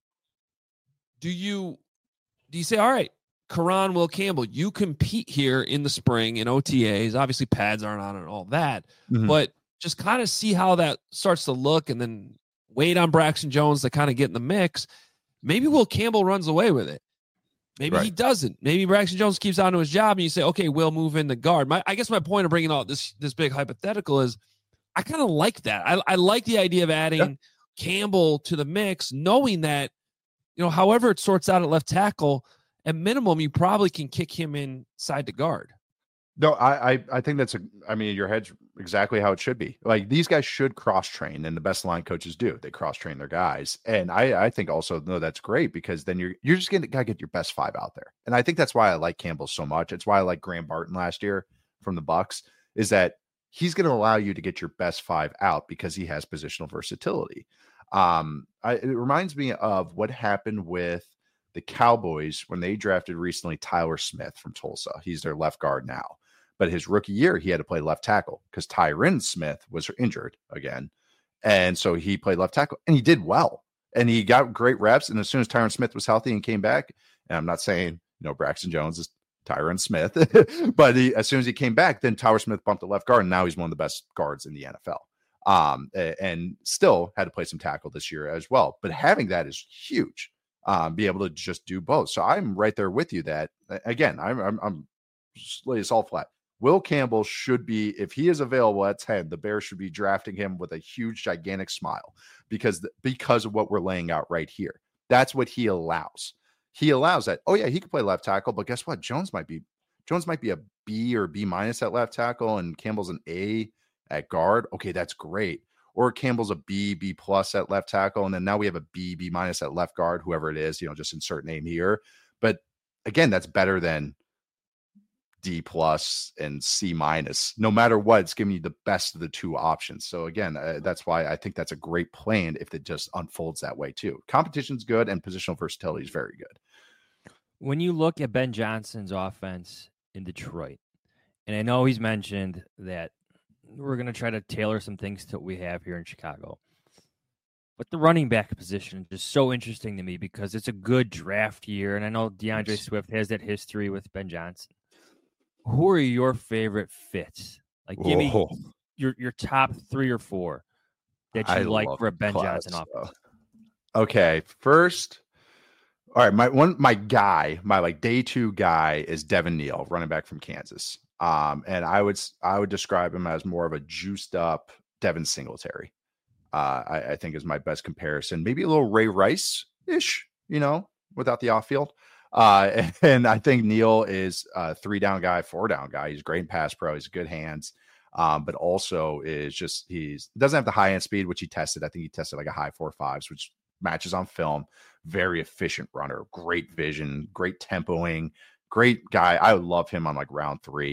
Do you do you say, all right, Karan, Will Campbell, you compete here in the spring in O T As. Obviously, pads aren't on and all that, Mhm. but just kind of see how that starts to look and then wait on Braxton Jones to kind of get in the mix. Maybe Will Campbell runs away with it. Maybe Right. he doesn't. Maybe Braxton Jones keeps on to his job and you say, okay, we'll move in the guard. My, I guess my point of bringing out this this big hypothetical is I kind of like that. I, I like the idea of adding Yeah. Campbell to the mix, knowing that, you know, however it sorts out at left tackle, at minimum, you probably can kick him inside the guard. no, I, I I think that's a. I mean, your head's exactly how it should be. Like these guys should cross train, and the best line coaches do. They cross train their guys, and I I think also no, that's great because then you're you're just gonna gotta get your best five out there, and I think that's why I like Campbell so much. It's why I like Graham Barton last year from the Bucks is that he's going to allow you to get your best five out because he has positional versatility. Um, I, it reminds me of what happened with the Cowboys when they drafted recently Tyler Smith from Tulsa. He's their left guard now. But his rookie year, he had to play left tackle because Tyron Smith was injured again. And so he played left tackle and he did well. And he got great reps. And as soon as Tyron Smith was healthy and came back, and I'm not saying, you know, Braxton Jones is Tyron Smith, but he, as soon as he came back, then Tyler Smith bumped the left guard. And now he's one of the best guards in the N F L. Um, and still had to play some tackle this year as well. But having that is huge. Um, be able to just do both. So I'm right there with you that, again, I'm, I'm, I'm lay this all flat. Will Campbell should be, if he is available at ten, the Bears should be drafting him with a huge, gigantic smile because, because of what we're laying out right here. That's what he allows. He allows that. Oh yeah, he could play left tackle, but guess what? Jones might be, Jones might be a B or B minus at left tackle, and Campbell's an A at guard. Okay, that's great. Or Campbell's a B, B plus at left tackle, and then now we have a B, B minus at left guard. Whoever it is, you know, just insert name here. But again, that's better than D plus and C minus. No matter what, it's giving you the best of the two options. So again, uh, that's why I think that's a great plan if it just unfolds that way too. Competition's good and positional versatility is very good. When you look at Ben Johnson's offense in Detroit, and I know he's mentioned that we're going to try to tailor some things to what we have here in Chicago, but the running back position is so interesting to me because it's a good draft year, and I know DeAndre Yes. Swift has that history with Ben Johnson. Who are your favorite fits? Like, give me Oh, your your top three or four that you I like love for a Ben class, Johnson offense. so. Okay, first, all right, my one, my guy, my like day two guy is Devin Neal, running back from Kansas. Um, and I would I would describe him as more of a juiced up Devin Singletary. Uh, I, I think is my best comparison. Maybe a little Ray Rice ish, you know, without the off field. Uh, and, and I think Neal is a three down guy, four down guy. He's great in pass pro. He's good hands. Um, but also is just, he's doesn't have the high end speed, which he tested. I think he tested like a high four fives, which matches on film. Very efficient runner, great vision, great tempoing, great guy. I would love him on like round three.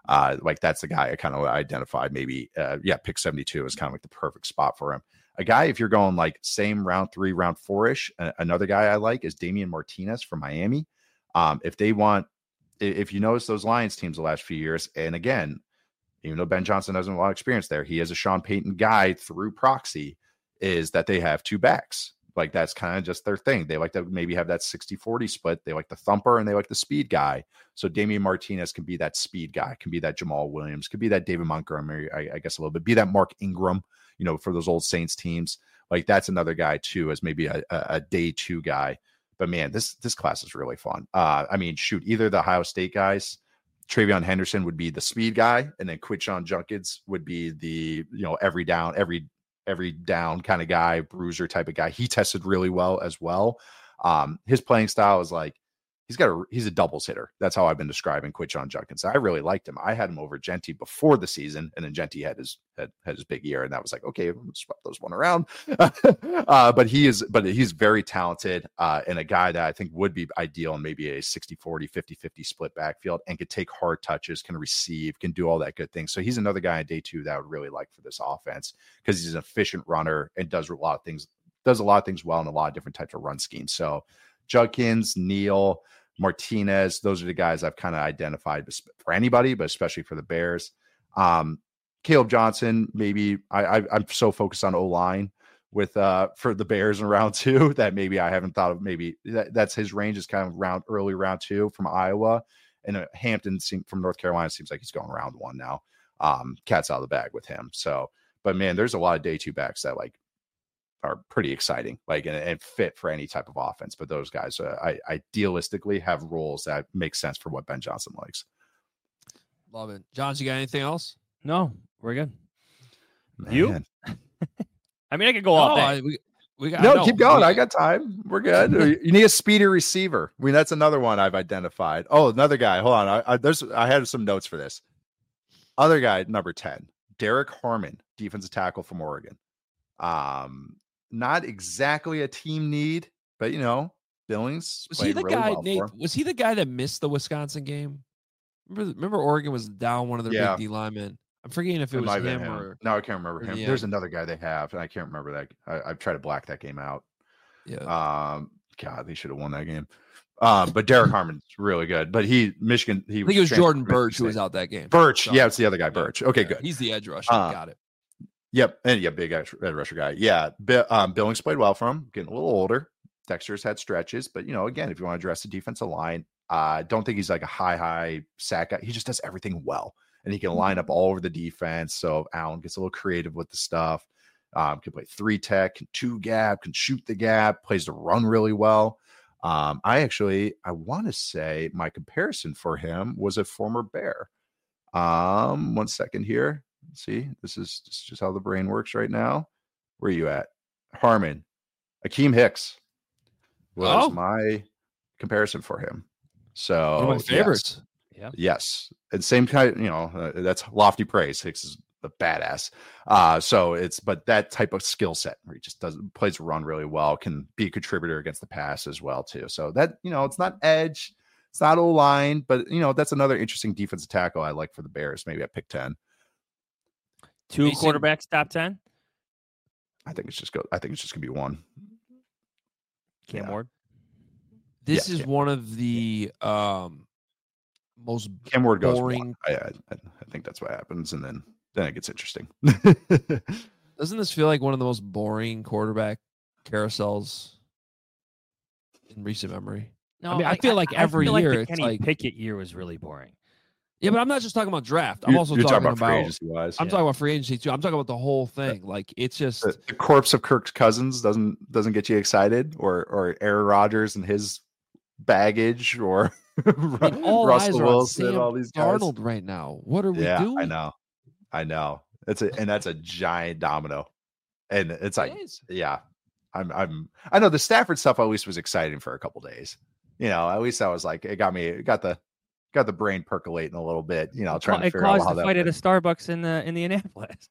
Uh, like that's the guy I kind of identified. Maybe, uh, yeah, pick seventy-two is kind of like the perfect spot for him. A guy, if you're going like same round three, round four ish, uh, another guy I like is Damian Martinez from Miami. Um, if they want, if you notice those Lions teams the last few years, and again, even though Ben Johnson doesn't have a lot of experience there, he is a Sean Payton guy through proxy, is that they have two backs. Like that's kind of just their thing. They like to maybe have that sixty forty split. They like the thumper and they like the speed guy. So Damian Martinez can be that speed guy, can be that Jamal Williams, could be that David Montgomery, I, I guess a little bit, be that Mark Ingram, you know, for those old Saints teams. Like that's another guy too, as maybe a, a, a day two guy. But man, this this class is really fun. Uh, I mean, shoot, either the Ohio State guys, Travion Henderson would be the speed guy, and then Quinshon Judkins would be the, you know, every down, every every down kind of guy, bruiser type of guy. He tested really well as well. Um, his playing style is like, he's got a, he's a doubles hitter. That's how I've been describing Quinshon Judkins. I really liked him. I had him over Genty before the season, and then Genty had his, had, had his big year. And that was like, okay, swap those one around. uh, but he is, but he's very talented uh, and a guy that I think would be ideal in maybe a sixty forty, fifty fifty split backfield, and could take hard touches, can receive, can do all that good thing. So he's another guy on day two that I would really like for this offense, because he's an efficient runner and does a lot of things, does a lot of things well in a lot of different types of run schemes. So Judkins, Neal, Martinez, those are the guys I've kind of identified for anybody, but especially for the Bears. Um, Caleb Johnson, maybe I, I, I'm so focused on O-line with uh, for the Bears in round two that maybe I haven't thought of. Maybe that, that's his range is kind of round early round two from Iowa, and uh, Hampton seem, from North Carolina seems like he's going round one now. Um, cat's out of the bag with him. So, but man, there's a lot of day two backs that like are pretty exciting, like and, and fit for any type of offense. But those guys, uh, I idealistically have roles that make sense for what Ben Johnson likes. Love it, John. You got anything else? No, we're good. Man. You? I mean, I could go all No, day. I, we, we got No, no, keep going. we- I got time. We're good. You need a speedy receiver. I mean, that's another one I've identified. Oh, another guy. Hold on. I, I there's I had some notes for this. Other guy, number ten, Derek Harmon, defensive tackle from Oregon. Um, not exactly a team need, but you know, Billings Was he the really guy? well Nate, for him. was he the guy that missed the Wisconsin game? Remember, remember Oregon was down one of their Yeah. big D linemen. I'm forgetting if it, It was might have him, been him. or No, I can't remember or him. the There's end. another guy they have, and I can't remember that. I, I've tried to black that game out. yeah. Um, God, they should have won that game. Um, but Derek Harmon's really good. But he, Michigan, he I think it was transferred Jordan from Michigan Birch who was State. out that game. Birch, So- yeah, it's the other guy, Birch. Okay, Yeah, good. He's the edge rusher. Uh, Got it. Yep, and yeah, big edge, edge rusher guy. Yeah, Bi- um, Billings played well for him. Getting a little older. Dexter's had stretches, but you know, again, if you want to address the defensive line, I uh, don't think he's like a high, high sack guy. He just does everything well, and he can line up all over the defense. So Allen gets a little creative with the stuff. Um, can play three tech, can two gap, can shoot the gap, plays the run really well. Um, I actually, I want to say my comparison for him was a former Bear. Um, one second here. See, this is, this is just how the brain works right now. Where are you at? Harmon, Akeem Hicks was Oh. my comparison for him. So One of my yes. favorites. Yes. And same kind, you know, uh, that's lofty praise. Hicks is a badass. Uh, so it's, but that type of skill set where he just does plays run really well, can be a contributor against the pass as well, too. So that, you know, it's not edge, it's not O line, but you know, that's another interesting defensive tackle I like for the Bears. Maybe at pick ten. Two Mason- quarterbacks top ten. I think it's just go, I think it's just gonna be one. Cam Yeah. Ward. This Yeah, is yeah. one of the um most Cam Ward goes boring. one. I, I, I think that's what happens. And then, then it gets interesting. Doesn't this feel like one of the most boring quarterback carousels in recent memory? No, I mean, I feel like every feel like year the it's Kenny like- Pickett year was really boring. Yeah, but I'm not just talking about draft. I'm You're- also you're talking, free about. agency wise. I'm Yeah. talking about free agency too. I'm talking about the whole thing. Like it's just the, the corpse of Kirk Cousins doesn't doesn't get you excited, or or Aaron Rodgers and his baggage, or I mean, all eyes Russell are on Wilson, Sam all these guys. Darnold right now. What are we Yeah, doing? I know, I know. It's a and that's a giant domino, and it's like, It is. yeah, I'm I'm I know the Stafford stuff at least was exciting for a couple days. You know, at least I was like, it got me, it got the got the brain percolating a little bit. You know, trying to It figure out caused how a that fight at a works. Starbucks in uh, Indianapolis.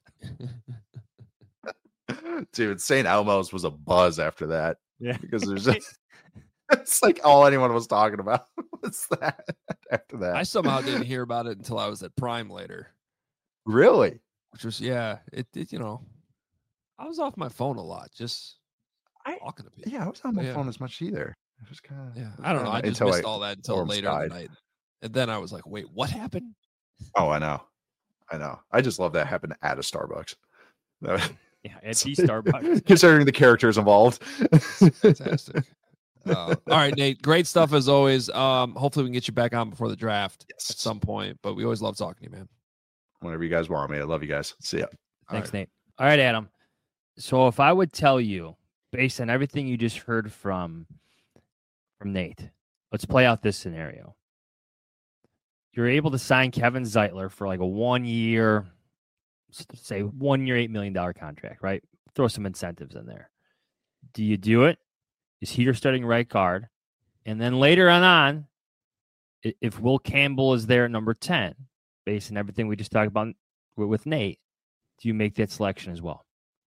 Dude, Saint Elmo's was a buzz after that. Yeah. Because there's just It's like all anyone was talking about was that after that. I somehow didn't hear about it until I was at Prime later. Really? Which was, yeah, it, it you know, I was off my phone a lot, just I, talking to people. Yeah, I was on my yeah. phone as much either. I was kind of, yeah, I don't know. I just missed I, all that until later died. in the night. And then I was like, wait, what happened? Oh, I know. I know. I just love that happened at a Starbucks. Yeah, at the Starbucks. Considering the characters involved. Fantastic. Uh, all right, Nate. Great stuff as always. Um, hopefully we can get you back on before the draft yes. at some point. But we always love talking to you, man. Whenever you guys want me. I love you guys. See ya. Thanks, right. Nate. All right, Adam. So if I would tell you, based on everything you just heard from from Nate, let's play out this scenario. You're able to sign Kevin Zeitler for like a one year, say one year, eight million dollar contract, right? Throw some incentives in there. Do you do it? Is he your starting right guard? And then later on, on, if Will Campbell is there at number ten, based on everything we just talked about with Nate, do you make that selection as well?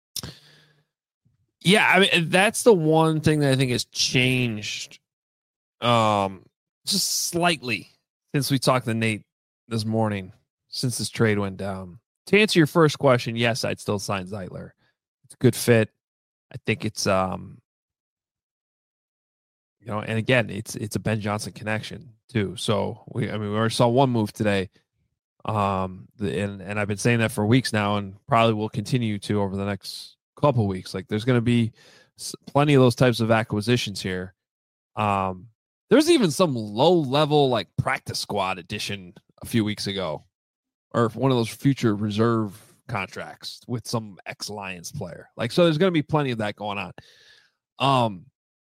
Yeah, I mean, that's the one thing that I think has changed um, just slightly since we talked to Nate this morning, since this trade went down. To answer your first question, yes, I'd still sign Zeitler. It's a good fit. I think it's um you know, and again, it's it's a Ben Johnson connection too. So we, I mean, we already saw one move today, um, the, and and I've been saying that for weeks now, and probably will continue to over the next couple of weeks. Like, there's going to be plenty of those types of acquisitions here. Um, there's even some low level like practice squad addition a few weeks ago, or one of those future reserve contracts with some ex Lions player. Like, so there's going to be plenty of that going on. Um.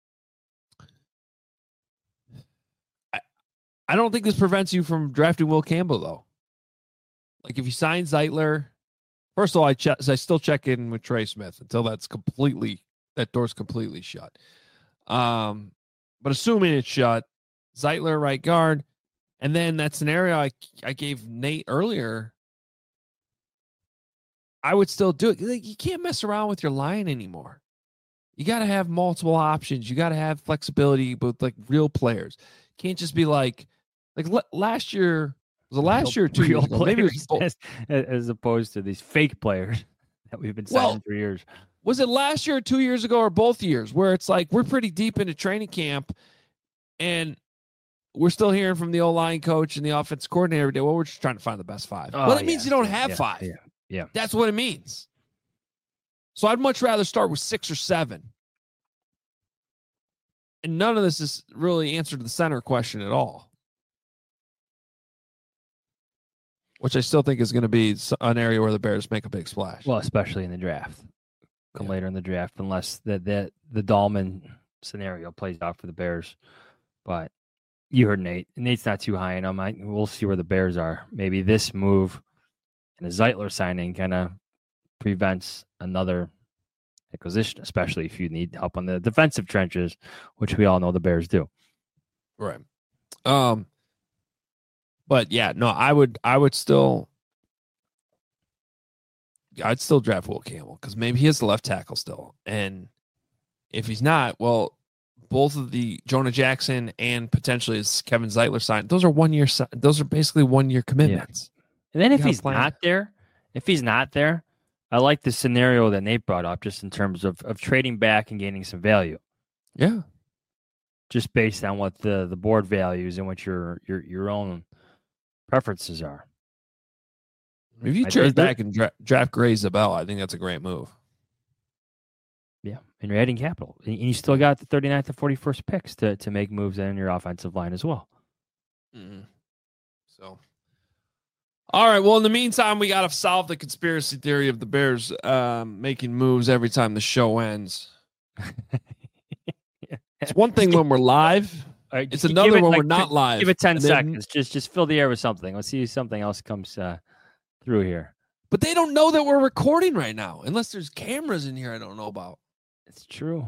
I don't think this prevents you from drafting Will Campbell, though. Like, if you sign Zeitler, first of all, I, che- I still check in with Trey Smith until that's completely, that door's completely shut. Um, but assuming it's shut, Zeitler right guard, and then that scenario I, I gave Nate earlier, I would still do it. Like, you can't mess around with your line anymore. You got to have multiple options. You got to have flexibility with, like, real players. Can't just be like, Like l- last year, was it last year or two years ago? Maybe it was both. As, as opposed to these fake players that we've been signing well, for years. Was it last year or two years ago or both years where it's like we're pretty deep into training camp and we're still hearing from the O-line coach and the offense coordinator every day, well, we're just trying to find the best five. Oh, well, it yeah, means you don't yeah, have yeah, five. Yeah, yeah. That's what it means. So I'd much rather start with six or seven. And none of this is really answered the center question at all. Which I still think is going to be an area where the Bears make a big splash. Well, especially in the draft. Come yeah. later in the draft, unless the, the, the Dahlman scenario plays out for the Bears. But you heard Nate. Nate's not too high in him. I, we'll see where the Bears are. Maybe this move and the Zeitler signing kind of prevents another acquisition, especially if you need help on the defensive trenches, which we all know the Bears do. Right. Um. But yeah, no, I would, I would still, I'd still draft Will Campbell because maybe he is the left tackle still, and if he's not, well, both of the Jonah Jackson and potentially is Kevin Zeitler signed. Those are one year. Those are basically one year commitments. Yeah. And then if he's not there, if he's not there, I like the scenario that Nate brought up, just in terms of of trading back and gaining some value. Yeah, just based on what the the board values and what your your your own preferences are. If you trade back and dra- draft Gray Zabel, I think that's a great move. Yeah, and you're adding capital. And you still got the thirty-ninth to forty-first picks to, to make moves in your offensive line as well. Mm-hmm. So, all right. Well, in the meantime, we got to solve the conspiracy theory of the Bears um, making moves every time the show ends. yeah. It's one thing when we're live. Right, it's another it, when like, we're not live. Give it ten seconds. Then, just just fill the air with something. Let's see if something else comes uh, through here. But they don't know that we're recording right now, unless there's cameras in here I don't know about. It's true.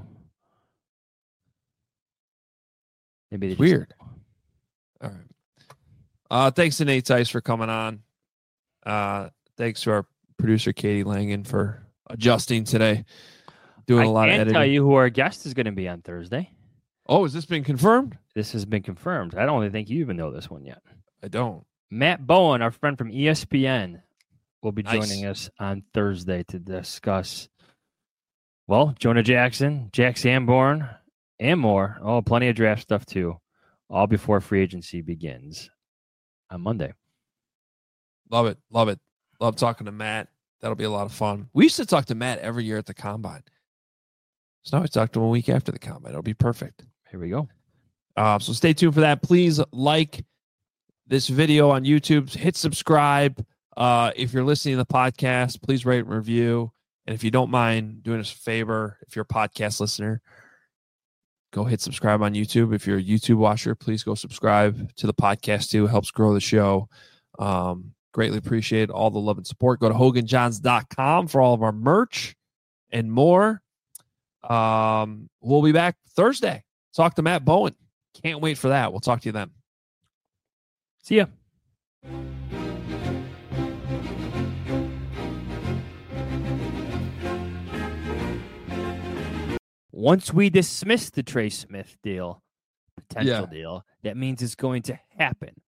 Maybe it's weird. All right. Uh, thanks to Nate Tice for coming on. Uh, thanks to our producer Katie Langen for adjusting today, doing I a lot of editing. I can't tell you who our guest is going to be on Thursday. Oh, has this been confirmed? This has been confirmed. I don't even think you even know this one yet. I don't. Matt Bowen, our friend from E S P N, will be Nice. joining us on Thursday to discuss, well, Jonah Jackson, Jack Sanborn, and more. Oh, plenty of draft stuff, too. All before free agency begins on Monday. Love it. Love it. Love talking to Matt. That'll be a lot of fun. We used to talk to Matt every year at the Combine. So now we talk to him a week after the Combine. It'll be perfect. Here we go. Uh, so stay tuned for that. Please like this video on YouTube. Hit subscribe. Uh, if you're listening to the podcast, please rate and review. And if you don't mind doing us a favor, if you're a podcast listener, go hit subscribe on YouTube. If you're a YouTube watcher, please go subscribe to the podcast too. It helps grow the show. Um, greatly appreciate all the love and support. Go to hogan johns dot com for all of our merch and more. Um, we'll be back Thursday. Talk to Matt Bowen. Can't wait for that. We'll talk to you then. See ya. Once we dismiss the Trey Smith deal, potential Yeah. deal, that means it's going to happen.